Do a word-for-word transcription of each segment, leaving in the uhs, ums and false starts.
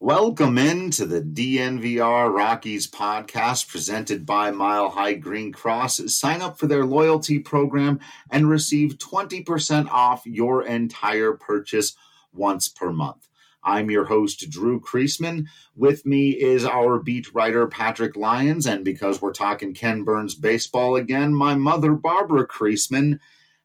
Welcome into the D N V R Rockies podcast presented by Mile High Green Cross. Sign up for their loyalty program and receive twenty percent off your entire purchase once per month. I'm your host, Drew Kreisman. With me is our beat writer, Patrick Lyons. And because we're talking Ken Burns baseball again, my mother, Barbara Kreisman,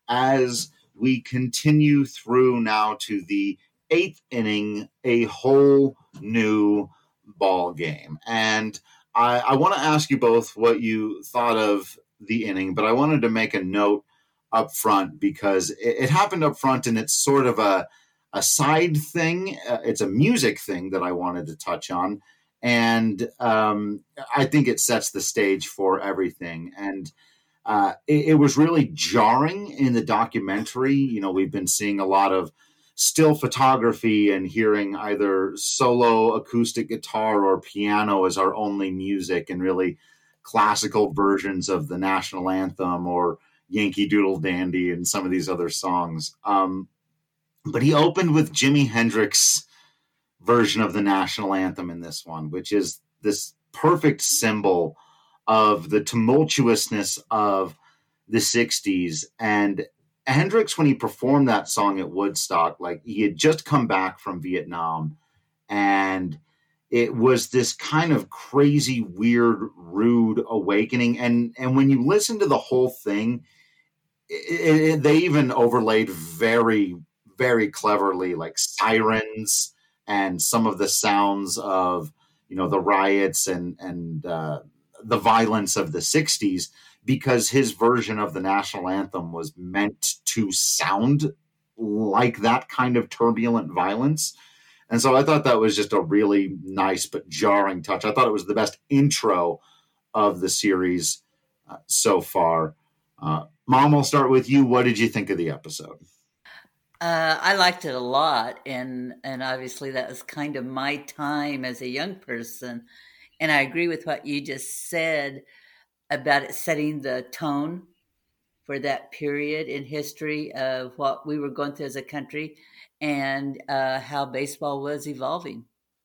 as we continue through now to the eighth inning, a whole new ball game. And I, I want to ask you both what you thought of the inning, but I wanted to make a note up front because it, it happened up front and it's sort of a, a side thing. Uh, it's a music thing that I wanted to touch on. And um, I think it sets the stage for everything. And uh, it, it was really jarring in the documentary. You know, we've been seeing a lot of still photography and hearing either solo acoustic guitar or piano as our only music, and really classical versions of the national anthem or Yankee Doodle Dandy and some of these other songs. Um, but he opened with Jimi Hendrix version of the national anthem in this one, which is this perfect symbol of the tumultuousness of the sixties. And Hendrix, when he performed that song at Woodstock, like he had just come back from Vietnam, and it was this kind of crazy, weird, rude awakening. And and when you listen to the whole thing, it, it, they even overlaid very, very cleverly, like sirens and some of the sounds of, you know, the riots and and uh, the violence of the sixties. Because his version of the national anthem was meant to sound like that kind of turbulent violence. And so I thought that was just a really nice but jarring touch. I thought it was the best intro of the series uh, so far. Uh, Mom, I'll start with you. What did you think of the episode? Uh, I liked it a lot. And, and obviously that was kind of my time as a young person. And I agree with what you just said about it setting the tone for that period in history of what we were going through as a country and uh, how baseball was evolving.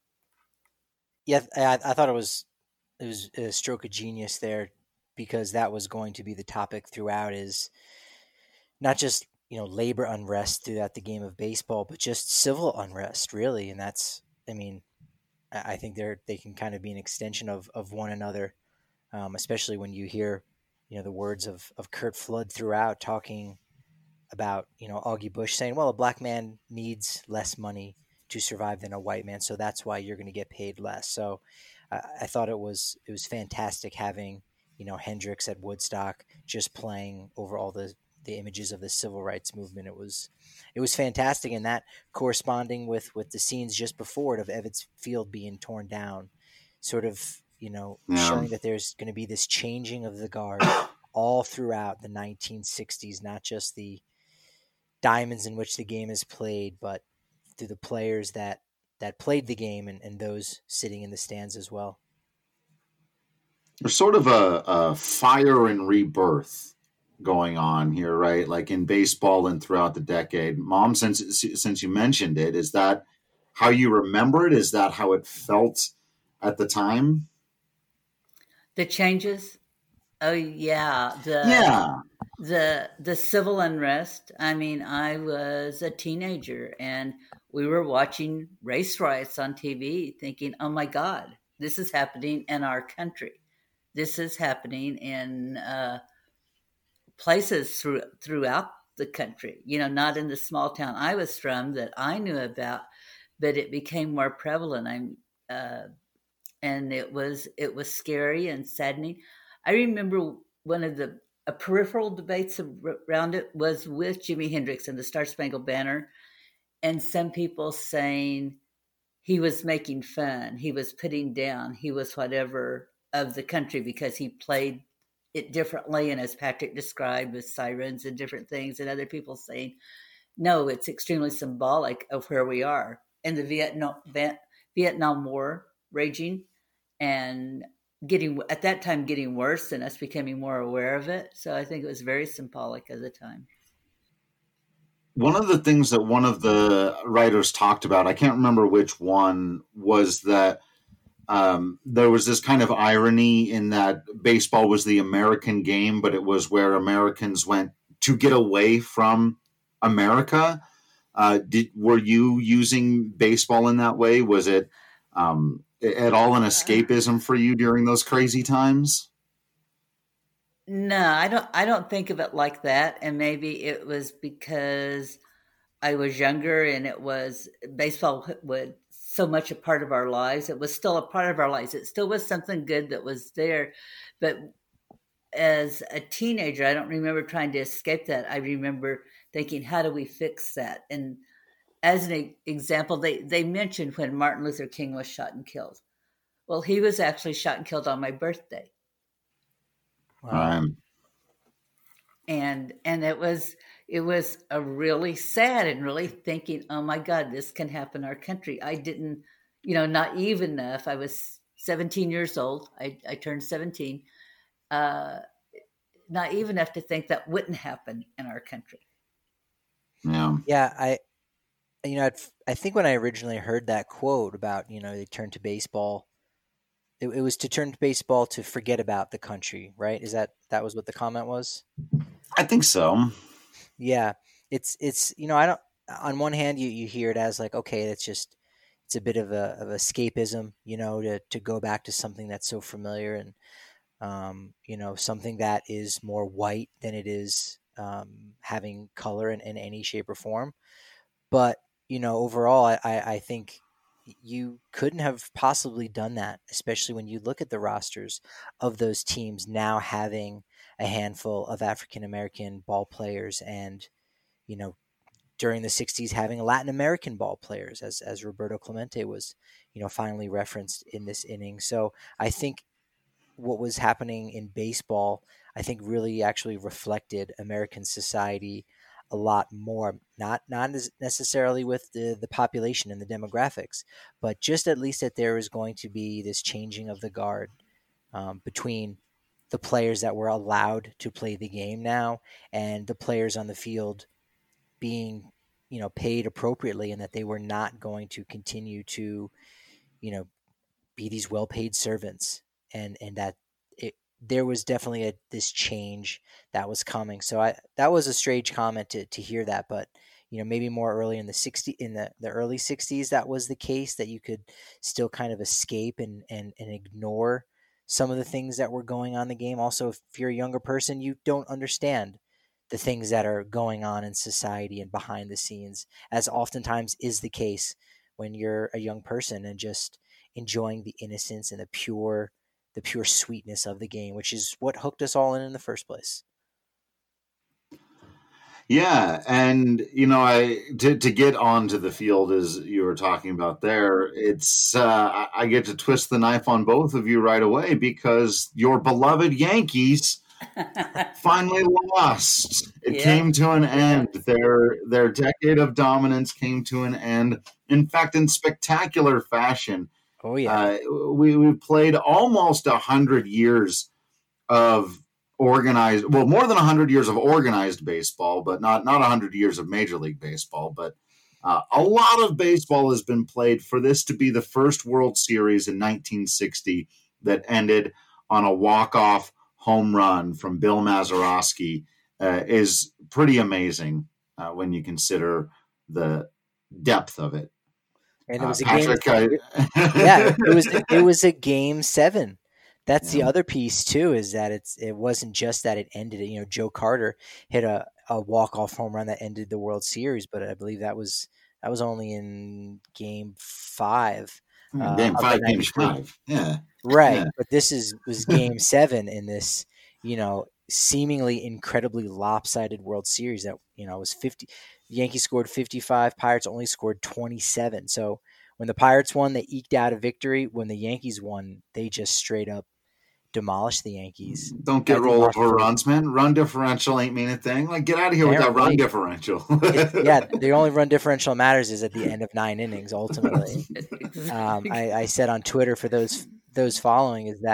Yeah, I, I thought it was it was a stroke of genius there, because that was going to be the topic throughout, is not just, you know, labor unrest throughout the game of baseball, but just civil unrest, really. And that's, I mean, I think they're they can kind of be an extension of, of one another. Um, especially when you hear, you know, the words of, of Curt Flood throughout, talking about, you know, Augie Busch saying, well, a black man needs less money to survive than a white man, so that's why you're going to get paid less. So uh, I thought it was it was fantastic having, you know, Hendrix at Woodstock just playing over all the, the images of the civil rights movement. It was it was fantastic, and that corresponding with, with the scenes just before it of Ebbets Field being torn down, sort of, you know, yeah. showing that there's going to be this changing of the guard all throughout the nineteen sixties, not just the diamonds in which the game is played, but through the players that, that played the game and, and those sitting in the stands as well. There's sort of a, a fire and rebirth going on here, right? Like in baseball and throughout the decade. Mom, since since you mentioned it, is that how you remember it? Is that how it felt at the time? The changes? Oh yeah. The, yeah. The, the civil unrest. I mean, I was a teenager and we were watching race riots on T V thinking, oh my God, this is happening in our country. This is happening in uh, places through, throughout the country, you know, not in the small town I was from that I knew about, but it became more prevalent. I'm, uh, and it was it was scary and saddening. I remember one of the a peripheral debates around it was with Jimi Hendrix and the Star Spangled Banner, and some people saying he was making fun, he was putting down, he was whatever of the country because he played it differently, and as Patrick described with sirens and different things, and other people saying, no, it's extremely symbolic of where we are in the Vietnam Vietnam War raging and getting at that time getting worse and us becoming more aware of it. So I think it was very symbolic at the time. one of the things that one of the writers talked about, I can't remember which one, was that um, there was this kind of irony in that baseball was the American game, but it was where Americans went to get away from America. Uh, did were you using baseball in that way? Was it um, at all an escapism for you during those crazy times? No, I don't I don't think of it like that. And maybe it was because I was younger and it was baseball was so much a part of our lives. It was still a part of our lives. It still was something good that was there. But as a teenager, I don't remember trying to escape that. I remember thinking, how do we fix that? And as an example, they, they mentioned when Martin Luther King was shot and killed. Well, he was actually shot and killed on my birthday. Wow. Um, and and it was it was a really sad and really thinking, oh my God, this can happen in our country. I didn't, you know, naive enough. I was seventeen years old. I, I turned seventeen. Uh, naive enough to think that wouldn't happen in our country. yeah. Yeah, I, you know, I'd, I think when I originally heard that quote about, you know, they turned to baseball, it, it was to turn to baseball to forget about the country, right? Is that that was what the comment was? I think so. Yeah, it's it's you know, I don't. On one hand, you, you hear it as like, okay, it's just it's a bit of a of escapism, you know, to to go back to something that's so familiar and um, you know, something that is more white than it is um, having color in, in any shape or form. But you know, overall, I, I I think you couldn't have possibly done that, especially when you look at the rosters of those teams now having a handful of African American ball players and, you know, during the sixties having Latin American ball players, as as Roberto Clemente was, you know, finally referenced in this inning. So I think what was happening in baseball, I think really actually reflected American society a lot more. Not not necessarily with the the population and the demographics, but just at least that there is going to be this changing of the guard um, between the players that were allowed to play the game now and the players on the field being, you know, paid appropriately, and that they were not going to continue to, you know, be these well-paid servants, and and that it, there was definitely a this change that was coming. So I that was a strange comment to to hear that, but you know, maybe more early in the sixty in the, the early sixties that was the case, that you could still kind of escape and and and ignore some of the things that were going on in the game. Also, if you're a younger person, you don't understand the things that are going on in society and behind the scenes, as oftentimes is the case when you're a young person and just enjoying the innocence and the pure the pure sweetness of the game, which is what hooked us all in in the first place. Yeah, and you know, I to to get onto the field as you were talking about there, it's uh, I, I get to twist the knife on both of you right away because your beloved Yankees finally lost. It Yeah. came to an end. Their their decade of dominance came to an end. In fact, in spectacular fashion. Oh yeah, Uh, we we played almost a hundred years of organized, well, more than a hundred years of organized baseball, but not not a hundred years of Major League Baseball. But uh, a lot of baseball has been played for this to be the first World Series in nineteen sixty that ended on a walk-off home run from Bill Mazeroski uh, is pretty amazing uh, when you consider the depth of it. and it Uh, was a Patrick, game. I, Yeah, it was it was a game seven. That's the Yeah. other piece too, is that it's it wasn't just that it ended it. You know, Joe Carter hit a, a walk off home run that ended the World Series, but I believe that was that was only in game five. Uh, game of the five, game ninety-three. five. Yeah. Right, Yeah. but this is was game seven in this, you know, seemingly incredibly lopsided World Series that, you know, was fifty. The Yankees scored fifty-five, Pirates only scored twenty-seven. So when the Pirates won, they eked out a victory. When the Yankees won, they just straight up demolished the Yankees. Don't get I think roll Mark over Ford- runs, man. Run differential ain't mean a thing. Like, get out of here with that run Apparently. differential. It- yeah, the only run differential matters is at the end of nine innings. Ultimately, um, I, I said on Twitter for those those following is that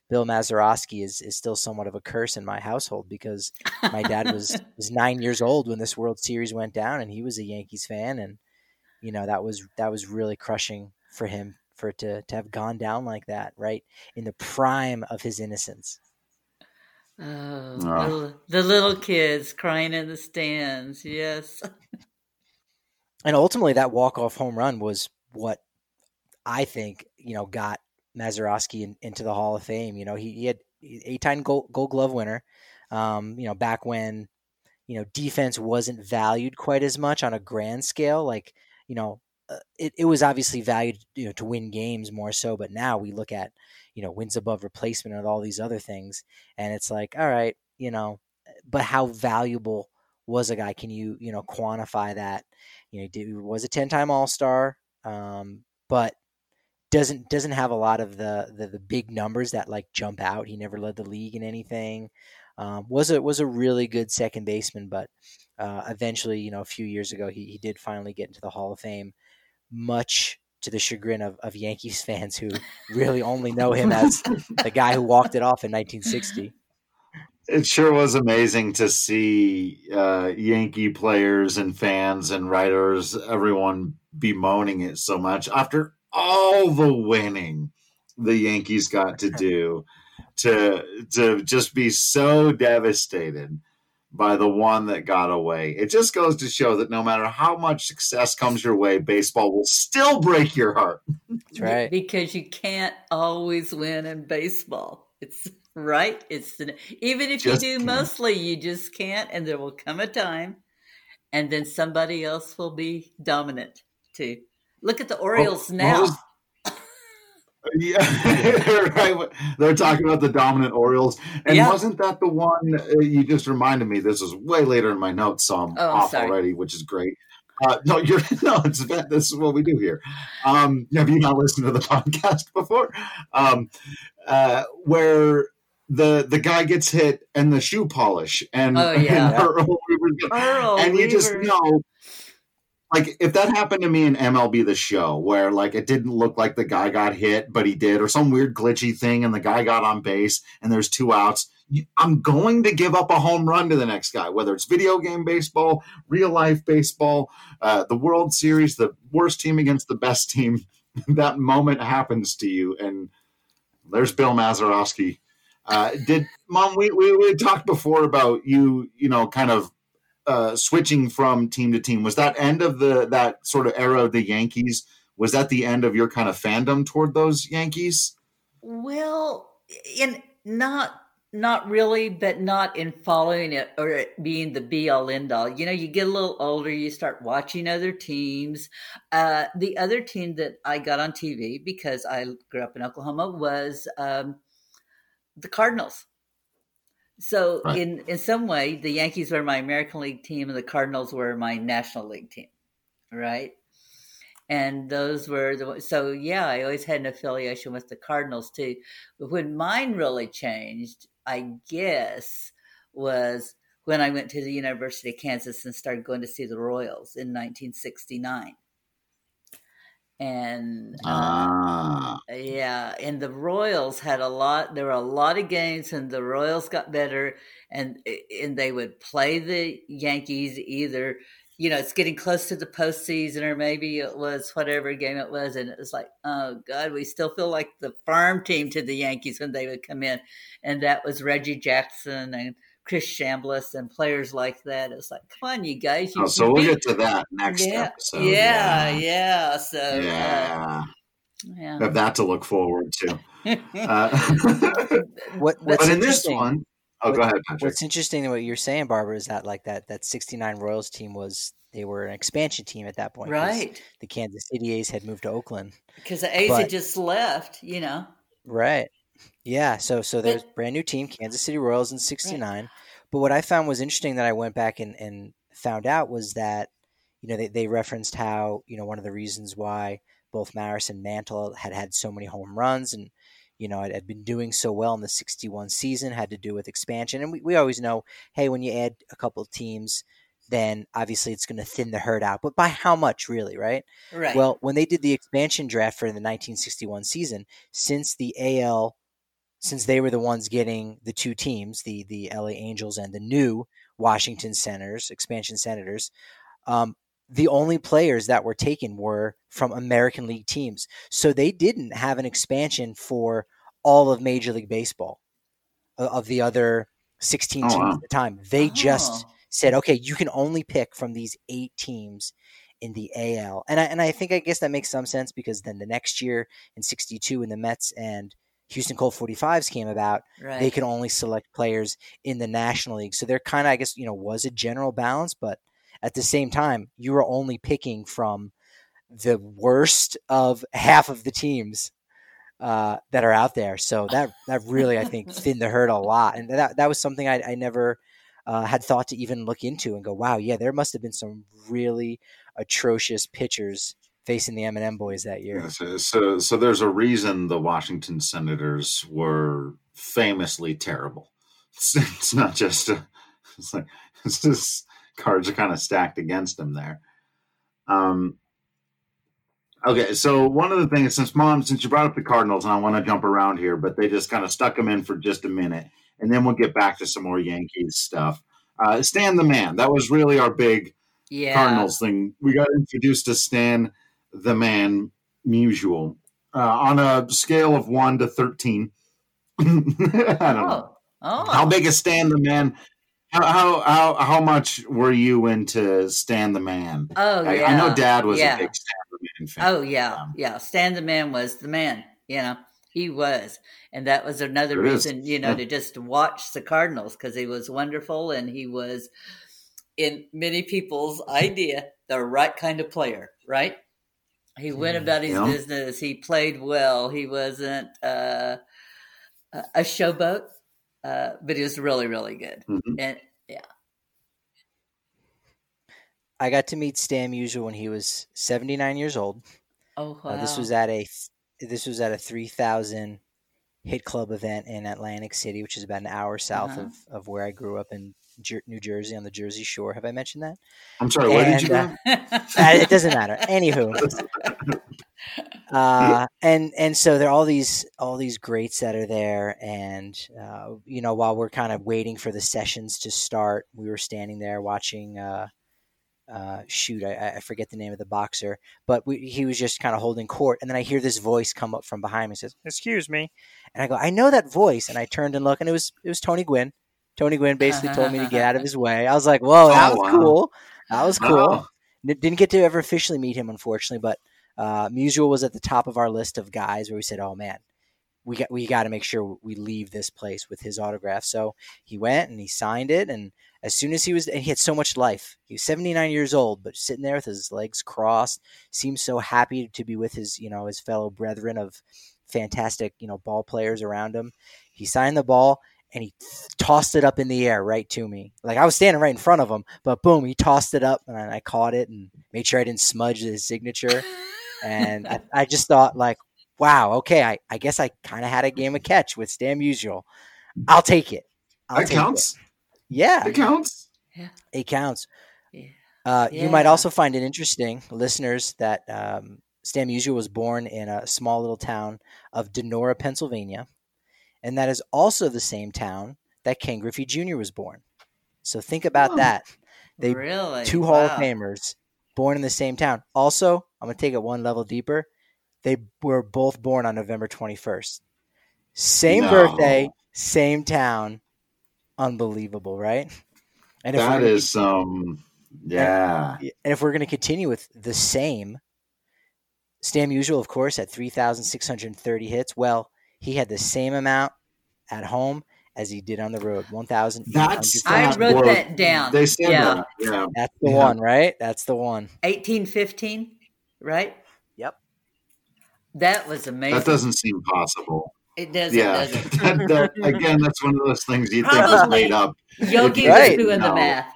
Bill Mazeroski is, is still somewhat of a curse in my household because my dad was, was nine years old when this World Series went down, and he was a Yankees fan. And, you know, that was, that was really crushing for him, for it to, to have gone down like that, right in the prime of his innocence. Oh, Oh. the, the little kids crying in the stands. Yes. And ultimately that walk-off home run was what I think, you know, got Mazeroski in, into the Hall of Fame. You know, he, he had eight-time gold, gold glove winner, um, you know, back when, you know, defense wasn't valued quite as much on a grand scale. Like, you know, uh, it, it was obviously valued, you know, to win games more so. But now we look at, you know, wins above replacement and all these other things. And it's like, all right, you know, but how valuable was a guy? Can you, you know, quantify that? You know, he was a ten-time All-Star, um, but doesn't doesn't have a lot of the, the the big numbers that like jump out. He never led the league in anything. Um, was a was a really good second baseman, but uh, eventually, you know, a few years ago, he he did finally get into the Hall of Fame, much to the chagrin of, of Yankees fans who really only know him as the guy who walked it off in nineteen sixty. It sure was amazing to see uh, Yankee players and fans and writers, everyone bemoaning it so much after all the winning the Yankees got to do, to to just be so devastated by the one that got away. It just goes to show that no matter how much success comes your way, baseball will still break your heart. That's right. Because you can't always win in baseball. It's right. It's the, even if Just you do can't. mostly, you just can't. And there will come a time, and then somebody else will be dominant too. Look at the Orioles What- what now. was- Yeah, right. They're talking about the dominant Orioles, and Yeah. wasn't that the one uh, you just reminded me? This was way later in my notes, so I'm Oh, I'm off sorry. already, which is great. Uh, no, you're no. It's this is what we do here. Um, have you not listened to the podcast before? Um, uh, where the the guy gets hit and the shoe polish, and, Oh, yeah. and Earl Weaver's- Earl and you just Weaver. know. Like, if that happened to me in M L B The Show, where, like, it didn't look like the guy got hit, but he did, or some weird glitchy thing, and the guy got on base, and there's two outs, I'm going to give up a home run to the next guy, whether it's video game baseball, real-life baseball, uh, the World Series, the worst team against the best team. That moment happens to you, and there's Bill Mazeroski. Uh, did, Mom, we, we, we talked before about you, you know, kind of Uh, switching from team to team. Was that end of the that sort of era of the Yankees? Was that the end of your kind of fandom toward those Yankees? Well, in not not really, but not in following it or it being the be all end all. You know, you get a little older, you start watching other teams. Uh, the other team that I got on T V because I grew up in Oklahoma was um, the Cardinals. So Right. in in some way, the Yankees were my American League team, and the Cardinals were my National League team, right? And those were the so yeah, I always had an affiliation with the Cardinals too. But when mine really changed, I guess, was when I went to the University of Kansas and started going to see the Royals in nineteen sixty-nine. And uh, Ah, yeah, and the Royals had a lot. There were a lot of games, and the Royals got better, and and they would play the Yankees either. You know, it's getting close to the postseason, or maybe it was whatever game it was, and it was like, oh God, we still feel like the farm team to the Yankees when they would come in, and that was Reggie Jackson and Chris Chambliss and players like that. It's like, come on, you guys, you, oh, so you we'll beat- get to that next yeah, episode. yeah, yeah, yeah. So uh, yeah. yeah. Have that to look forward to. Uh, What, But- what's but in this interesting, one, oh, go what- ahead, Patrick. what's interesting in what you're saying, Barbara, is that like that that sixty-nine Royals team was they were an expansion team at that point. 'cause right. The Kansas City A's had moved to Oakland. Because the A's But- had just left, you know. Right. Yeah. So so there's But- brand new team, Kansas City Royals in sixty-nine. But what I found was interesting that I went back and, and found out was that, you know, they, they referenced how, you know, one of the reasons why both Maris and Mantle had had so many home runs and, you know, had, had been doing so well in the sixty-one season had to do with expansion. And we, we always know, hey, when you add a couple of teams, then obviously it's going to thin the herd out. But by how much, really, right? Right. Well, when they did the expansion draft for the nineteen sixty-one season, since the A L since they were the ones getting the two teams, the the L A Angels and the new Washington Senators, expansion Senators, um, the only players that were taken were from American League teams. So they didn't have an expansion for all of Major League Baseball, of the other sixteen Oh, teams wow. at the time. They just Oh. said, okay, you can only pick from these eight teams in the A L. And I, and I think, I guess that makes some sense, because then the next year in sixty-two, when the Mets and Houston Colt forty-fives came about, Right. they could only select players in the National League. So there kind of, I guess, you know, was a general balance, but at the same time, you were only picking from the worst of half of the teams uh, that are out there. So that that really, I think, thinned the herd a lot. And that that was something I, I never uh, had thought to even look into and go, wow, yeah, there must have been some really atrocious pitchers facing the M and M boys that year. Yeah, so, so, so there's a reason the Washington Senators were famously terrible. It's, it's not just a, it's like it's just cards are kind of stacked against them there. Um. Okay, so one of the things, since Mom, since you brought up the Cardinals, and I want to jump around here, but they just kind of stuck them in for just a minute, and then we'll get back to some more Yankees stuff. Uh, Stan the Man, that was really our big Yeah. Cardinals thing. We got introduced to Stan the Man Musial uh, on a scale of one to thirteen. I don't know. Oh. Oh. How big is Stan the Man? How, how how how much were you into Stan the Man? Oh, I, yeah. I know Dad was Yeah. a big Stan the Man fan. Oh, yeah. Um, Yeah. Stan the Man was the man, you know, he was. And that was another It is. reason, you know, Yeah. to just watch the Cardinals, because he was wonderful and he was, in many people's idea, the right kind of player, right? He went about his Yeah. business. He played well. He wasn't uh, a a showboat, uh, but he was really, really good. Mhm. And yeah. I got to meet Stan Musial when he was seventy-nine years old. Oh, wow. Uh, this was at a this was at a three thousand hit club event in Atlantic City, which is about an hour south Uh-huh. of, of where I grew up in Jer- New Jersey, on the Jersey Shore. Have I mentioned that? I'm sorry, where did you And, go? uh, Uh, it doesn't matter. Anywho, uh, and and so there are all these all these greats that are there, and uh, you know, while we're kind of waiting for the sessions to start, we were standing there watching. Uh, uh, shoot, I, I forget the name of the boxer, but we, he was just kind of holding court, and then I hear this voice come up from behind me, and says, "Excuse me," and I go, "I know that voice," and I turned and looked, and it was it was Tony Gwynn. Tony Gwynn basically told me to get out of his way. I was like, "Whoa, that Oh, was wow. cool. That was cool." Wow. N- Didn't get to ever officially meet him, unfortunately, but uh, Musial was at the top of our list of guys where we said, "Oh man, we got we got to make sure we leave this place with his autograph." So he went and he signed it, and as soon as he was, and he had so much life. He was seventy-nine years old, but sitting there with his legs crossed, seemed so happy to be with his, you know, his fellow brethren of fantastic, you know, ball players around him. He signed the ball, and he tossed it up in the air right to me. Like, I was standing right in front of him, but boom, he tossed it up, and I caught it and made sure I didn't smudge his signature. And I, I just thought, like, wow, okay, I, I guess I kind of had a game of catch with Stan Musial. I'll take it. I'll That take counts. It. Yeah, It counts. Yeah. it counts. Yeah. Uh, You might Yeah. also find it interesting, listeners, that um, Stan Musial was born in a small little town of Denora, Pennsylvania, and that is also the same town that Ken Griffey Junior was born. So think about Oh. that. They Really? two Hall of Wow. Famers born in the same town. Also, I'm going to take it one level deeper. They were both born on November twenty-first. Same No. birthday, same town. Unbelievable, right? And if That we're gonna is um yeah. And if we're going to continue with the same, Stan Musial, of course, had three thousand six hundred thirty hits. Well, he had the same amount at home as he did on the road, one thousand eight hundred. That's I that wrote word. that down. They said Yeah. that. Yeah. That's the Yeah. one, right? That's the one. eighteen fifteen, right? Yep. That was amazing. That doesn't seem possible. It doesn't, Yeah. does it? that, that, again, that's one of those things you think was Probably. made up. Yogi Right. was doing No. the math.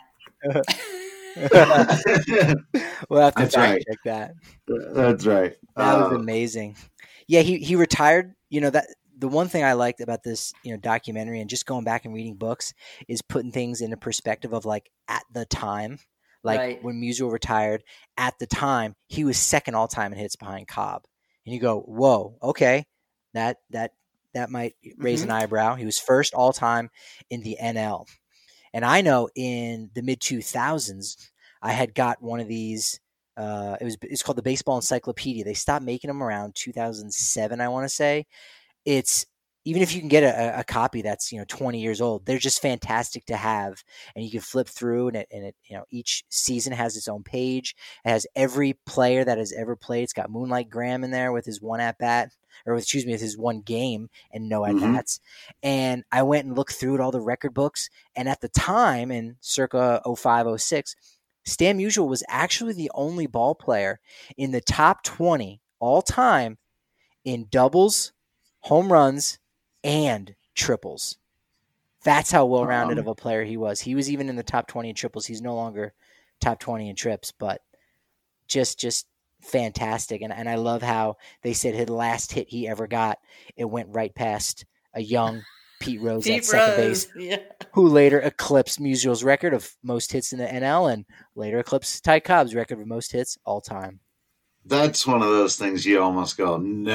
We'll have to That's fact right. check that. That's right. That was Uh, amazing. Yeah, he, he retired. You know, that the one thing I liked about this, you know, documentary and just going back and reading books is putting things into perspective of, like, at the time. Like Right. when Musial retired, at the time, he was second all time in hits behind Cobb. And you go, whoa, okay. That that that might raise Mm-hmm. an eyebrow. He was first all time in the N L. And I know in the mid two thousands, I had got one of these. Uh, it was it's called the Baseball Encyclopedia. They stopped making them around two thousand seven, I want to say. It's even if you can get a, a copy that's, you know, twenty years old, they're just fantastic to have. And you can flip through, and it, and it, you know, each season has its own page. It has every player that has ever played. It's got Moonlight Graham in there with his one at bat, or excuse me, with his one game and no at bats. Mm-hmm. And I went and looked through at all the record books. And at the time, in circa oh five, oh six, Stan Musial was actually the only ball player in the top twenty all time in doubles, home runs, and triples. That's how well-rounded um, of a player he was. He was even in the top twenty in triples. He's no longer top twenty in trips, but just just fantastic. And and I love how they said his last hit he ever got, it went right past a young Pete Rose Pete at second Rose, base, yeah. who later eclipsed Musial's record of most hits in the N L and later eclipsed Ty Cobb's record of most hits all time. That's one of those things you almost go,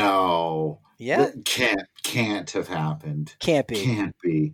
no, yeah, that can't can't have happened. Can't be, can't be.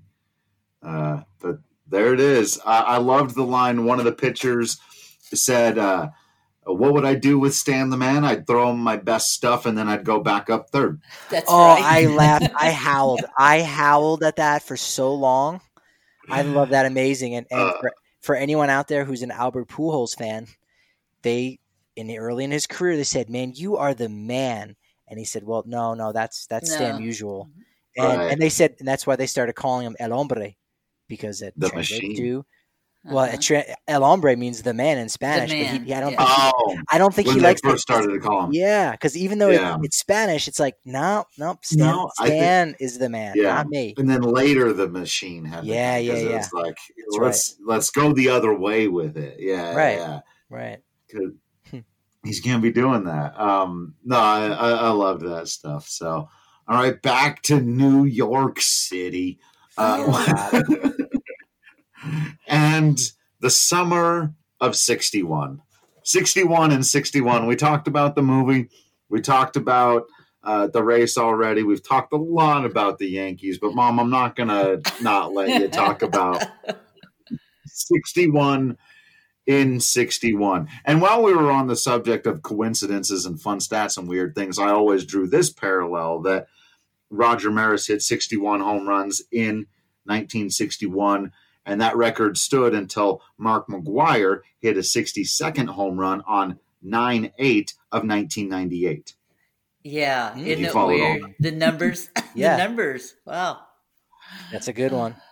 Uh, but there it is. I, I loved the line. One of the pitchers said, uh, "What would I do with Stan the Man? I'd throw him my best stuff, and then I'd go back up third." That's oh, right. I laughed. I howled. I howled at that for so long. I love that. Amazing. And, and uh, for, for anyone out there who's an Albert Pujols fan, they in the early in his career they said, "Man, you are the man." And he said, "Well, no, no, that's that's no. Stan Musial." And right. and they said, and that's why they started calling him El Hombre, because it the translates machine. to well, uh-huh. tra- El Hombre means the man in Spanish, man. but he, I don't yeah. think oh, he, I don't think when he they likes first it. started to call him. Yeah, because even though yeah. it, it's Spanish, it's like no, nope, Stan, no, Stan think, is the man, yeah. not me. And then later the machine had yeah, the yeah, yeah. It's like That's let's right. let's go the other way with it. Yeah, right, yeah, right. He's gonna be doing that. Um, no, I, I, I loved that stuff. So, all right, back to New York City, uh, and the summer of sixty-one. sixty-one and sixty-one. We talked about the movie. We talked about uh, the race already. We've talked a lot about the Yankees, but Mom, I'm not gonna not let you talk about sixty-one. In sixty-one. And while we were on the subject of coincidences and fun stats and weird things, I always drew this parallel that Roger Maris hit sixty-one home runs in nineteen sixty-one, and that record stood until Mark McGwire hit a sixty-second home run on nine eight of nineteen ninety-eight. Yeah, mm, isn't it weird? On. The numbers, yeah. the numbers. Wow. That's a good one.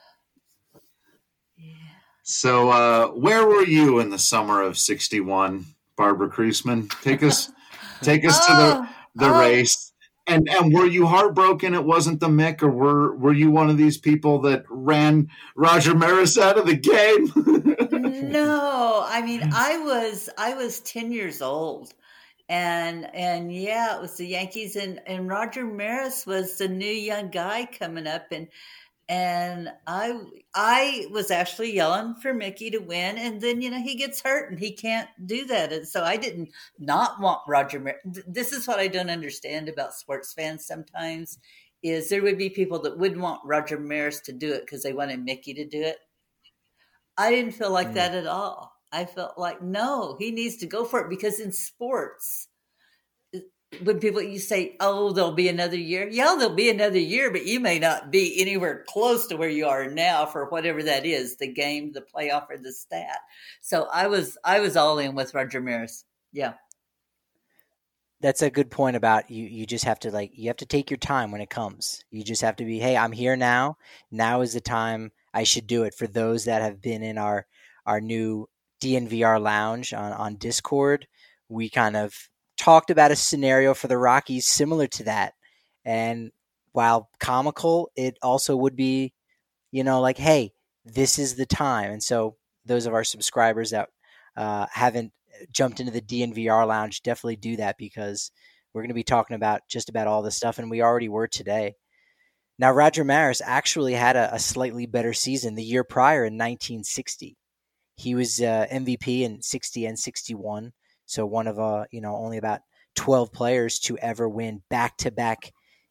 So, uh, where were you in the summer of sixty-one, Barbara Kriesman? Take us, take us oh, to the the oh. race. And and were you heartbroken it wasn't the Mick, or were were you one of these people that ran Roger Maris out of the game? No, I mean I was I was ten years old, and and yeah, it was the Yankees, and and Roger Maris was the new young guy coming up, and. And I I was actually yelling for Mickey to win. And then, you know, he gets hurt and he can't do that. And so I didn't not want Roger Maris. This is what I don't understand about sports fans sometimes is there would be people that wouldn't want Roger Maris to do it because they wanted Mickey to do it. I didn't feel like mm. that at all. I felt like, no, he needs to go for it because in sports, when people, you say, oh, there'll be another year. Yeah, there'll be another year, but you may not be anywhere close to where you are now for whatever that is, the game, the playoff, or the stat. So I was, I was all in with Roger Maris. Yeah. That's a good point about you. You just have to like, you have to take your time when it comes. You just have to be, hey, I'm here now. Now is the time I should do it. For those that have been in our, our new D N V R lounge on, on Discord, we kind of talked about a scenario for the Rockies similar to that. And while comical, it also would be, you know, like, hey, this is the time. And so those of our subscribers that uh, haven't jumped into the D N V R lounge, definitely do that because we're going to be talking about just about all this stuff. And we already were today. Now, Roger Maris actually had a, a slightly better season the year prior in nineteen sixty. He was uh, M V P in sixty and sixty-one. So one of, uh, you know, only about twelve players to ever win back-to-back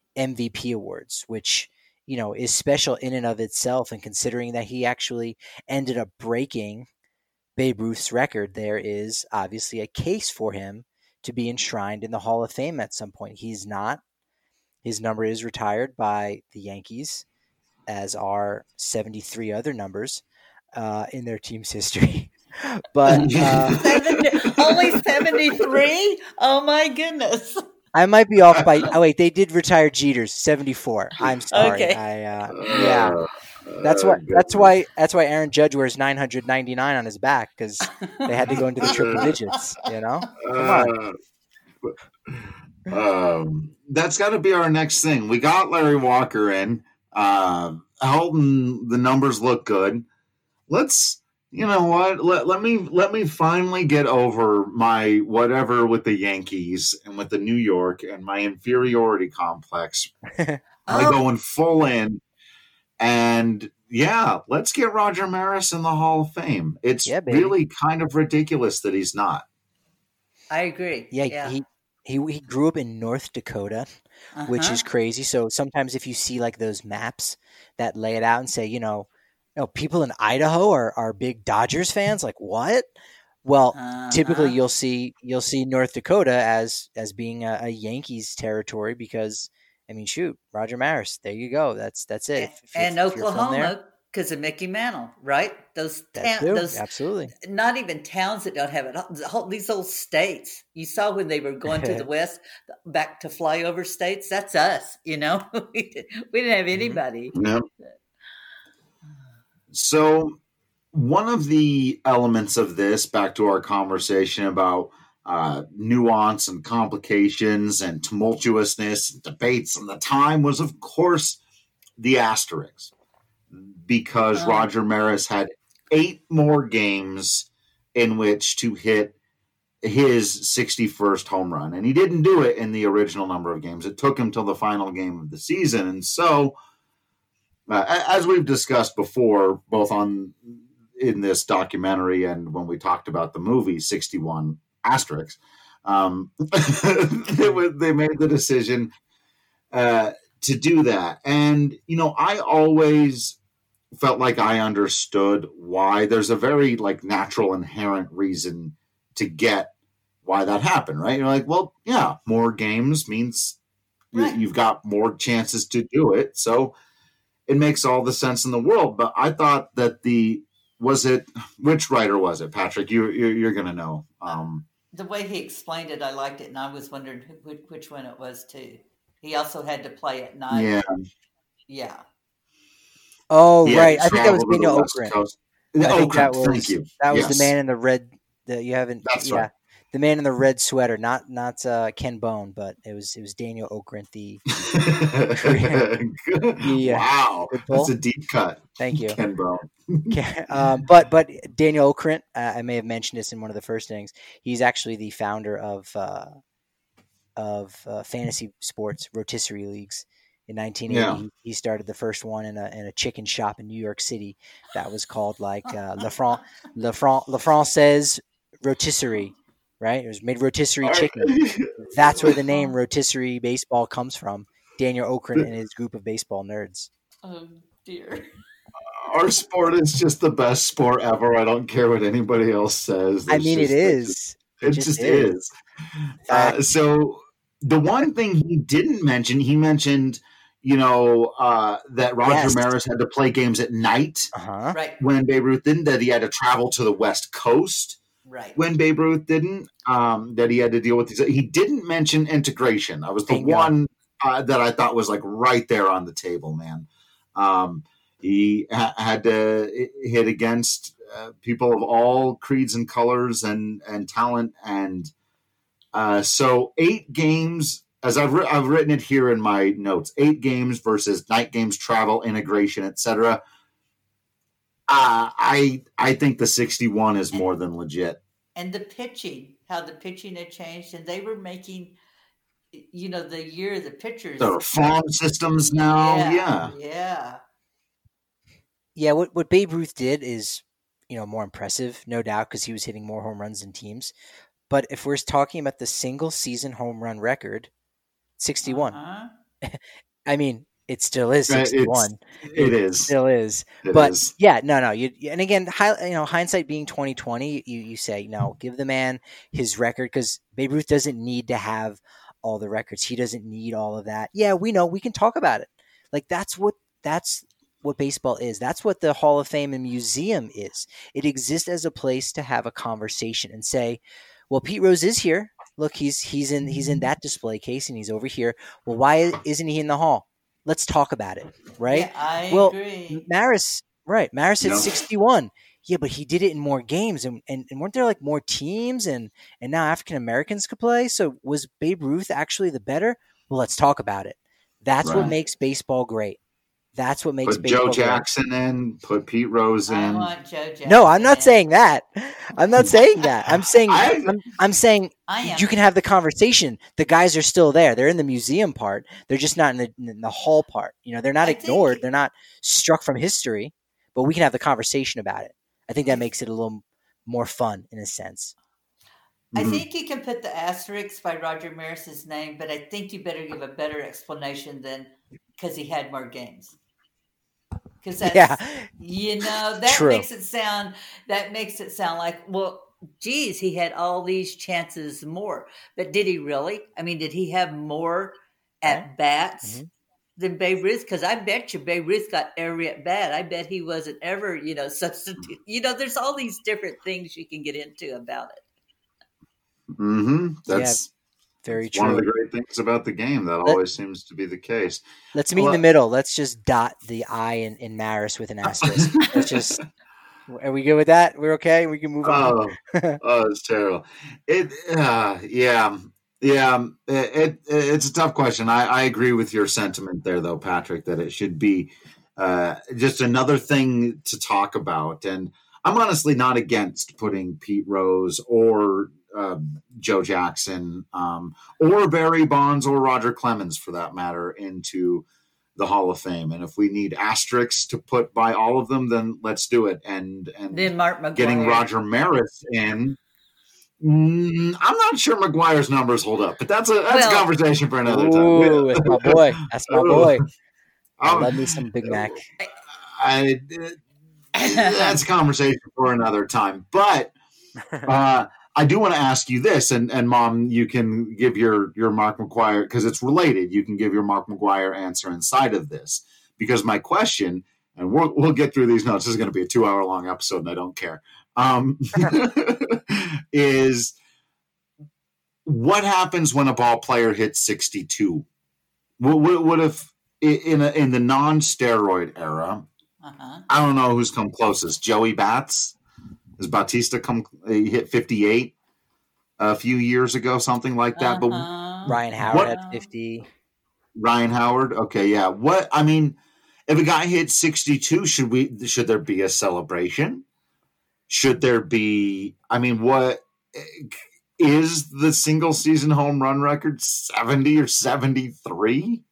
M V P awards, which, you know, is special in and of itself. And considering that he actually ended up breaking Babe Ruth's record, there is obviously a case for him to be enshrined in the Hall of Fame at some point. He's not. His number is retired by the Yankees, as are seventy-three other numbers uh, in their team's history. But uh, seventy, only seventy-three? Oh my goodness. I might be off by. Oh wait, they did retire Jeter's seventy-four. I'm sorry. Okay. I uh, yeah. That's why. That's why. That's why Aaron Judge wears nine hundred ninety-nine on his back, because they had to go into the triple digits. You know. Come on. Um, that's got to be our next thing. We got Larry Walker in. Uh, Helton, the numbers look good. Let's. You know what? Let, let me let me finally get over my whatever with the Yankees and with the New York and my inferiority complex. I'm Oh. going full in, and yeah, let's get Roger Maris in the Hall of Fame. It's Yeah, baby. really kind of ridiculous that he's not. I agree. Yeah, Yeah. he he he grew up in North Dakota, Uh-huh. which is crazy. So sometimes if you see like those maps that lay it out and say, you know, you know, people in Idaho are, are big Dodgers fans, like what? Well, Uh-huh. typically you'll see you'll see North Dakota as as being a, a Yankees territory because I mean, shoot, Roger Maris, there you go. That's that's it. And, If- if- and if you're from there, Oklahoma, because of Mickey Mantle, right? Those that ta- too, those absolutely. not even towns that don't have it. The whole, these whole states. You saw when they were going to the west, back to flyover states. That's us. You know, we, did, we didn't have anybody. Yep. So one of the elements of this, back to our conversation about uh, nuance and complications and tumultuousness and debates and the time, was, of course, the asterisks. Because Oh. Roger Maris had eight more games in which to hit his sixty-first home run. And he didn't do it in the original number of games. It took him till the final game of the season. And so, uh, as we've discussed before, both on in this documentary and when we talked about the movie sixty-one Asterix, um, they, were, they made the decision uh, to do that. And, you know, I always felt like I understood why. There's a very like natural inherent reason to get why that happened, right? You're like, well, yeah, more games means Right. you, you've got more chances to do it. So it makes all the sense in the world. But I thought that the, was it, which writer was it, Patrick? You, you're, you're going to know. Um, The way he explained it, I liked it, and I was wondering who, which one it was too. He also had to play at night. yeah. Yeah. Oh, He had right. to I think that was travel to the Daniel West Okren. Coast. I think Okren, that was thank you. that was Yes. the man in the red. The, you haven't, That's yeah, right. the man in the red sweater, not not uh, Ken Bone, but it was it was Daniel Okren. The Yeah. Wow, Good pull. that's a deep cut. Thank you. Ken Bone. um, but but Daniel Okren, uh, I may have mentioned this in one of the first innings. He's actually the founder of uh, of uh, fantasy sports rotisserie leagues. In nineteen eighty, Yeah. he, he started the first one in a in a chicken shop in New York City that was called like uh, Le Fran Le Fran Le Française Rotisserie, right? It was made rotisserie chicken. That's where the name rotisserie baseball comes from. Daniel Okren and his group of baseball nerds. Oh dear. Our sport is just the best sport ever. I don't care what anybody else says. I It's mean, just- it it is. just- It It just just is. is. Uh, so the one thing he didn't mention, he mentioned, you know, uh, that Roger Yes. Maris had to play games at night Uh huh. Right. when Babe Ruth didn't, that he had to travel to the West Coast Right. when Babe Ruth didn't, um, that he had to deal with these. He didn't mention integration. That was the Bingo. one uh, that I thought was like right there on the table, man. Um, he ha- had to hit against uh, people of all creeds and colors and, and talent. And uh, so eight games, as I've, ri- I've written it here in my notes, eight games versus night games, travel, integration, et cetera. Uh, I I think the sixty-one is more than legit. And the pitching, how the pitching had changed, and they were making, you know, the year the pitchers. There are farm systems now. Yeah. Yeah. Yeah. Yeah, what what Babe Ruth did is, you know, more impressive, no doubt, because he was hitting more home runs than teams. But if we're talking about the single season home run record, sixty-one. Uh-huh. I mean, it still is sixty-one. It's, it, it is. Still is. It but is. yeah, no, no. You and again, hi, you know, hindsight being twenty twenty, you you say no, give the man his record because Babe Ruth doesn't need to have all the records. He doesn't need all of that. Yeah, we know. We can talk about it. Like that's what that's what baseball is. That's what the Hall of Fame and Museum is. It exists as a place to have a conversation and say, well, Pete Rose is here. Look, he's he's in he's in that display case and he's over here. Well, why isn't he in the hall? Let's talk about it, right? Yeah, I well, agree. Maris, right? Maris hit No. sixty-one. Yeah, but he did it in more games, and, and, and weren't there like more teams, and and now African Americans could play. So was Babe Ruth actually the better? Well, let's talk about it. That's Right. what makes baseball great. That's what makes Put baseball Joe Jackson great. in. Put Pete Rose in. I want Joe Jackson. No, I'm not in. saying that. I'm not saying that. I'm saying I- I'm, I'm saying I am. you can have the conversation. The guys are still there. They're in the museum part. They're just not in the, in the hall part. You know, they're not I ignored. think- They're not struck from history. But we can have the conversation about it. I think that makes it a little more fun in a sense. I Mhm. think you can put the asterisk by Roger Maris's name, but I think you better give a better explanation than because he had more games. Because that's, Yeah. you know, that True. makes it sound that makes it sound like, well, geez, he had all these chances more, but did he really? I mean, did he have more at bats Mhm. than Babe Ruth? Because I bet you Babe Ruth got every at bat. I bet he wasn't ever, you know, substitute. You know, there's all these different things you can get into about it. Mm-hmm. That's Very that's true. one of the great things about the game. That Let- always seems to be the case. Let's meet in Well- the middle. Let's just dot the I in, in Maris with an asterisk. Let's just. Are we good with that? We're okay. We can move on. Oh, oh, it's terrible. It, uh, yeah, yeah. It, it, it's a tough question. I, I agree with your sentiment there, though, Patrick, that it should be uh, just another thing to talk about. And I'm honestly not against putting Pete Rose or uh, Joe Jackson um, or Barry Bonds or Roger Clemens, for that matter, into the Hall of Fame. And if we need asterisks to put by all of them, then let's do it. And and Then Mark McGwire. getting Roger Maris in, mm, I'm not sure McGuire's numbers hold up, but that's a that's Well- a conversation for another Ooh, that's my boy. That's my boy. time. I Um, love me some Big Mac. I, that's a conversation for another time. But uh, I do want to ask you this, and, and Mom, you can give your, your Mark McGuire, because it's related, you can give your Mark McGuire answer inside of this. Because my question, and we'll, we'll get through these notes, this is going to be a two-hour-long episode, and I don't care, um, is what happens when a ball player hits sixty-two? What, what, what if, in, a, in the non-steroid era, Uh-huh. I don't know who's come closest. Joey Bats? Has Bautista come? He hit fifty-eight a few years ago, something like that. But Uh-huh. Ryan Howard What- had fifty. Ryan Howard, okay, yeah. What I mean, if a guy hits sixty-two, should we? Should there be a celebration? Should there be? I mean, what is the single season home run record? Seventy or seventy-three?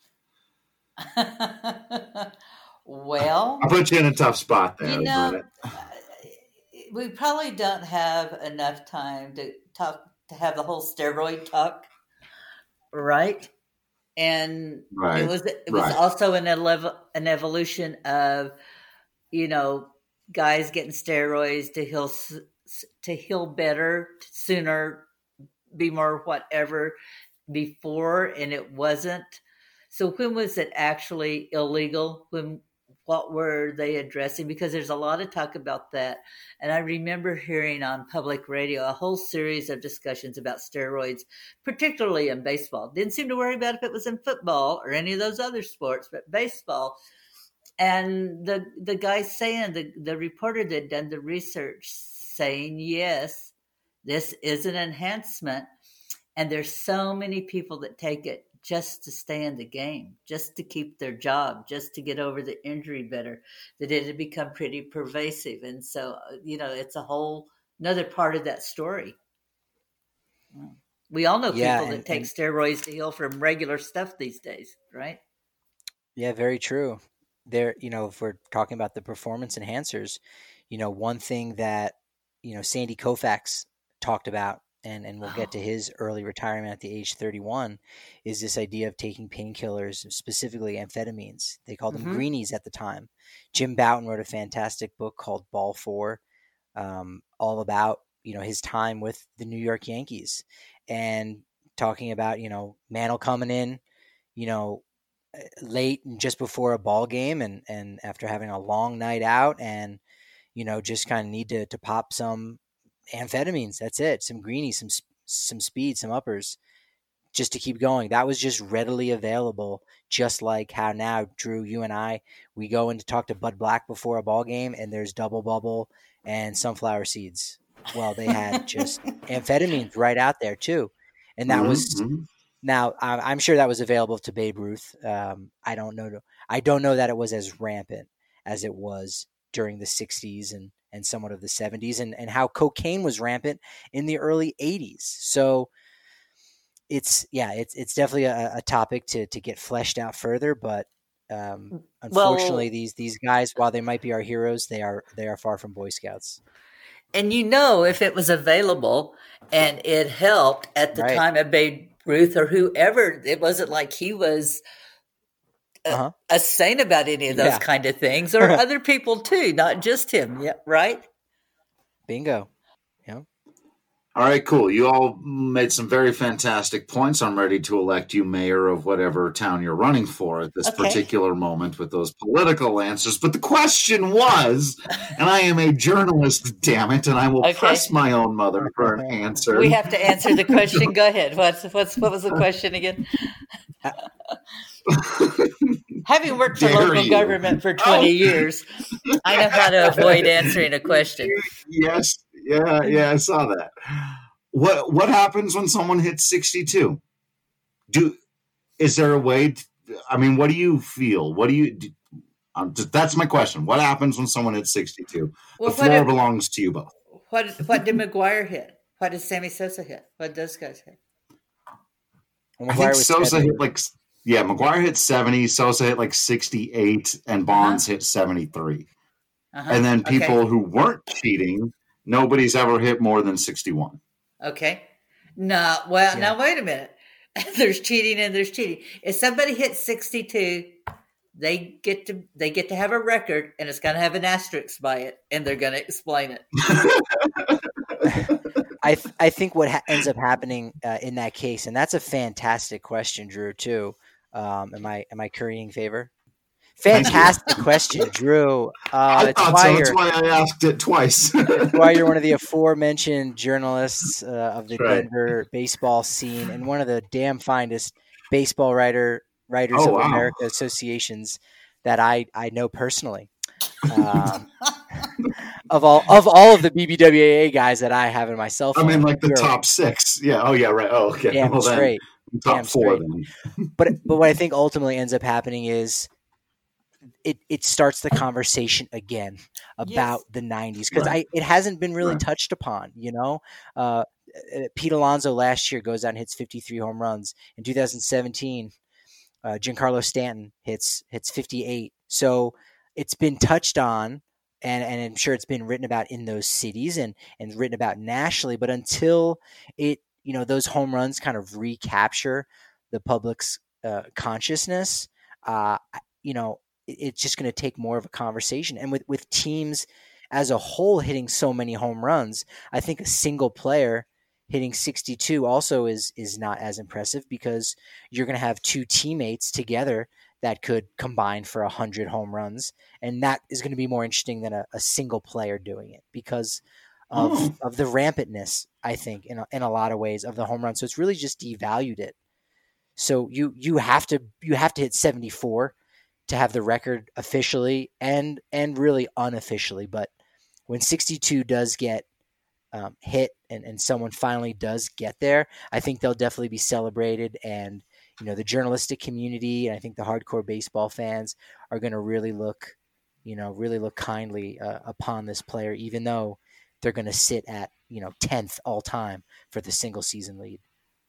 Well, I put you in a tough spot there. you know, Bennett. uh, we probably don't have enough time to talk to have the whole steroid talk, right? And Right, it was it was right. also an elev- an evolution of, you know, guys getting steroids to heal s- s- to heal better sooner, be more whatever before, and it wasn't. So when was it actually illegal? When what were they addressing? Because there's a lot of talk about that. And I remember hearing on public radio a whole series of discussions about steroids, particularly in baseball. Didn't seem to worry about if it was in football or any of those other sports, but baseball. And the the guy saying, the, the reporter that done the research saying, yes, this is an enhancement. And there's so many people that take it just to stay in the game, just to keep their job, just to get over the injury better, that it had become pretty pervasive. And so, you know, it's a whole another part of that story. We all know Yeah, people that and- take and- steroids to heal from regular stuff these days, right? Yeah, very true. There, you know, if we're talking about the performance enhancers, you know, one thing that, you know, Sandy Koufax talked about and, and we'll get to his early retirement at the age thirty-one, is this idea of taking painkillers, specifically amphetamines. They called them Mm-hmm. greenies at the time. Jim Bouton wrote a fantastic book called Ball Four, um, all about, you know, his time with the New York Yankees, and talking about, you know, Mantle coming in, you know, late and just before a ball game, and, and after having a long night out, and, you know, just kind of need to, to pop some amphetamines. That's it. Some greenies, some, some speed, some uppers, just to keep going. That was just readily available. Just like how now, Drew, you and I, we go in to talk to Bud Black before a ball game, and there's Double Bubble and sunflower seeds. Well, they had just amphetamines right out there too. And that mm-hmm. was, now I'm sure that was available to Babe Ruth. Um, I don't know. I don't know that it was as rampant as it was during the sixties and, and somewhat of the seventies, and, and how cocaine was rampant in the early eighties. So it's, yeah, it's, it's definitely a, a topic to, to get fleshed out further, but um, unfortunately well, these, these guys, while they might be our heroes, they are, they are far from Boy Scouts. And, you know, if it was available and it helped at the right. time of Babe Ruth or whoever, it wasn't like he was a, uh-huh. a saint about any of those yeah. kind of things, or other people too, not just him. Yeah, right? Bingo. Yeah. All right, cool. You all made some very fantastic points. I'm ready to elect you mayor of whatever town you're running for at this okay. particular moment with those political answers. But the question was, and I am a journalist, damn it, and I will okay. press my own mother for an answer. We have to answer the question. Go ahead. What's what's what was the question again? Having worked for Dare local you. government for twenty oh. years, I know how to avoid answering a question. Yes. Yeah, yeah, I saw that. What what happens when someone hits sixty-two? Do is there a way? To, I mean, what do you feel? What do you? Do, um, that's my question. What happens when someone hits sixty-two? Well, the floor did, belongs to you both. What what did McGwire hit? What did Sammy Sosa hit? What did those guys hit? I think Sosa seventy. hit like yeah, McGwire hit seventy. Sosa hit like sixty-eight, and Bonds uh-huh. hit seventy-three. Uh-huh. And then people okay. who weren't cheating. Nobody's ever hit more than sixty-one. Okay. No, well, yeah. now wait a minute. There's cheating and there's cheating. If somebody hits sixty-two, they get to they get to have a record, and it's going to have an asterisk by it, and they're going to explain it. I th- I think what ha- ends up happening uh, in that case, and that's a fantastic question, Drew. Too. Um, am I am I currying favor? Fantastic question, Drew. Uh, I thought so. That's why I asked it twice. That's why you're one of the aforementioned journalists uh, of the right. Denver baseball scene, and one of the damn finest baseball writer writers oh, of wow. America associations that I, I know personally. Um, of all of all of the B B W A A guys that I have in my cell phone, I mean, like the top six. Yeah. Oh, yeah. Right. Oh, okay. Damn well, straight. Then, top damn four. Straight. Then. But but what I think ultimately ends up happening is. It it starts the conversation again about yes. the nineties, because right. I it hasn't been really right. touched upon. You know, uh, Pete Alonso last year goes out and hits fifty-three home runs. In two thousand seventeen, uh, Giancarlo Stanton hits hits fifty-eight. So it's been touched on, and, and I'm sure it's been written about in those cities and and written about nationally. But until it, you know, those home runs kind of recapture the public's uh, consciousness, uh, you know. It's just going to take more of a conversation. And with, with teams as a whole hitting so many home runs, I think a single player hitting sixty-two also is is not as impressive, because you're going to have two teammates together that could combine for one hundred home runs. And that is going to be more interesting than a, a single player doing it, because of, oh. of the rampantness, I think, in a, in a lot of ways, of the home run. So it's really just devalued it. So you you have to you have to hit seventy-four to have the record officially and and really unofficially. But when sixty-two does get um, hit and, and someone finally does get there, I think they'll definitely be celebrated. And, you know, the journalistic community and I think the hardcore baseball fans are going to really look, you know, really look kindly uh, upon this player, even though they're going to sit at, you know, tenth all time for the single season lead.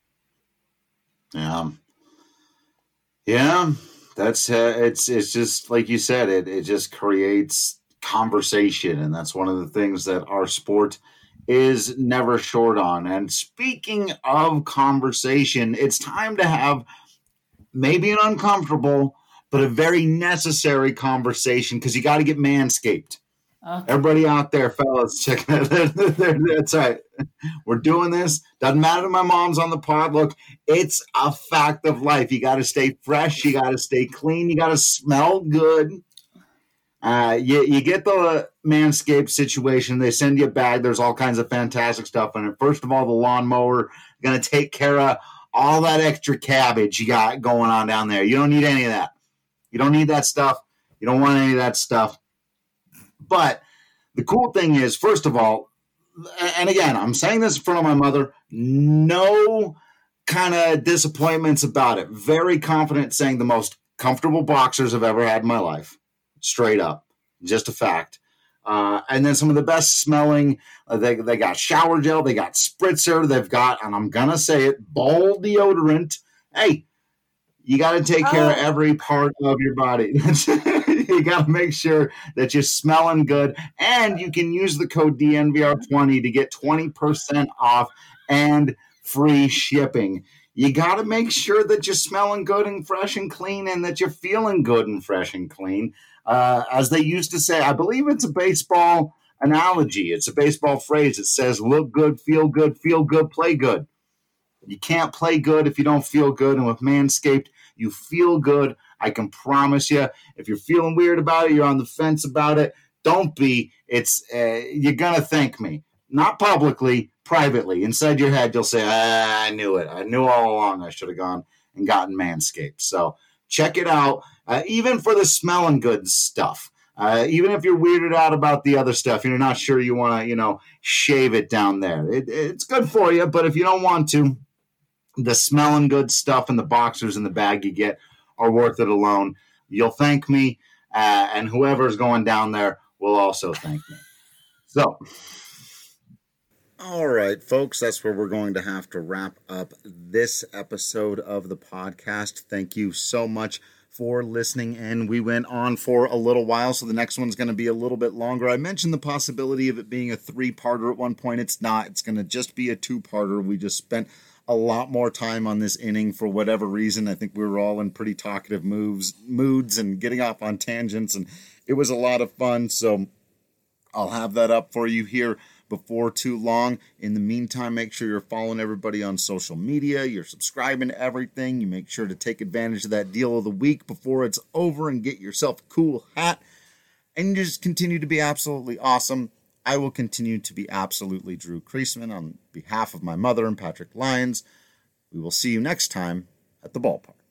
Yeah. Yeah. That's uh, it's it's just like you said, it it just creates conversation, and that's one of the things that our sport is never short on. And speaking of conversation, it's time to have maybe an uncomfortable, but a very necessary conversation, because you got to get manscaped. Okay. Everybody out there, fellas, check it. That's right. We're doing this. Doesn't matter if my mom's on the pod. Look, it's a fact of life. You got to stay fresh. You got to stay clean. You got to smell good. Uh, you, you get the Manscaped situation. They send you a bag. There's all kinds of fantastic stuff in it. First of all, the lawnmower going to take care of all that extra cabbage you got going on down there. You don't need any of that. You don't need that stuff. You don't want any of that stuff. But the cool thing is, first of all, and again, I'm saying this in front of my mother, no kind of disappointments about it. Very confident saying the most comfortable boxers I've ever had in my life. Straight up. Just a fact. Uh, and then some of the best smelling, uh, they, they got shower gel, they got spritzer, they've got, and I'm going to say it, ball deodorant. Hey, you got to take care oh. of every part of your body. You got to make sure that you're smelling good, and you can use the code D N V R twenty to get twenty percent off and free shipping. You got to make sure that you're smelling good and fresh and clean, and that you're feeling good and fresh and clean. Uh, as they used to say, I believe it's a baseball analogy. It's a baseball phrase. It says, look good, feel good, feel good, play good. You can't play good if you don't feel good. And with Manscaped, you feel good. I can promise you, if you're feeling weird about it, you're on the fence about it, don't be. It's uh, you're going to thank me. Not publicly, privately. Inside your head, you'll say, ah, I knew it. I knew all along I should have gone and gotten Manscaped. So check it out. Uh, even for the smelling good stuff. Uh, even if you're weirded out about the other stuff, you're not sure you want to, you know, shave it down there. It, it's good for you, but if you don't want to, the smelling good stuff and the boxers in the bag you get are worth it alone. You'll thank me, uh, and whoever's going down there will also thank me. So, all right, folks, that's where we're going to have to wrap up this episode of the podcast. Thank you so much for listening in. We went on for a little while, so the next one's going to be a little bit longer. I mentioned the possibility of it being a three-parter at one point. It's not. It's going to just be a two-parter. We just spent a lot more time on this inning for whatever reason. I think we were all in pretty talkative moves, moods and getting off on tangents, and it was a lot of fun, so I'll have that up for you here before too long. In the meantime, make sure you're following everybody on social media. You're subscribing to everything. You make sure to take advantage of that deal of the week before it's over and get yourself a cool hat. And you just continue to be absolutely awesome. I will continue to be absolutely Drew Creasman on behalf of my mother and Patrick Lyons. We will see you next time at the ballpark.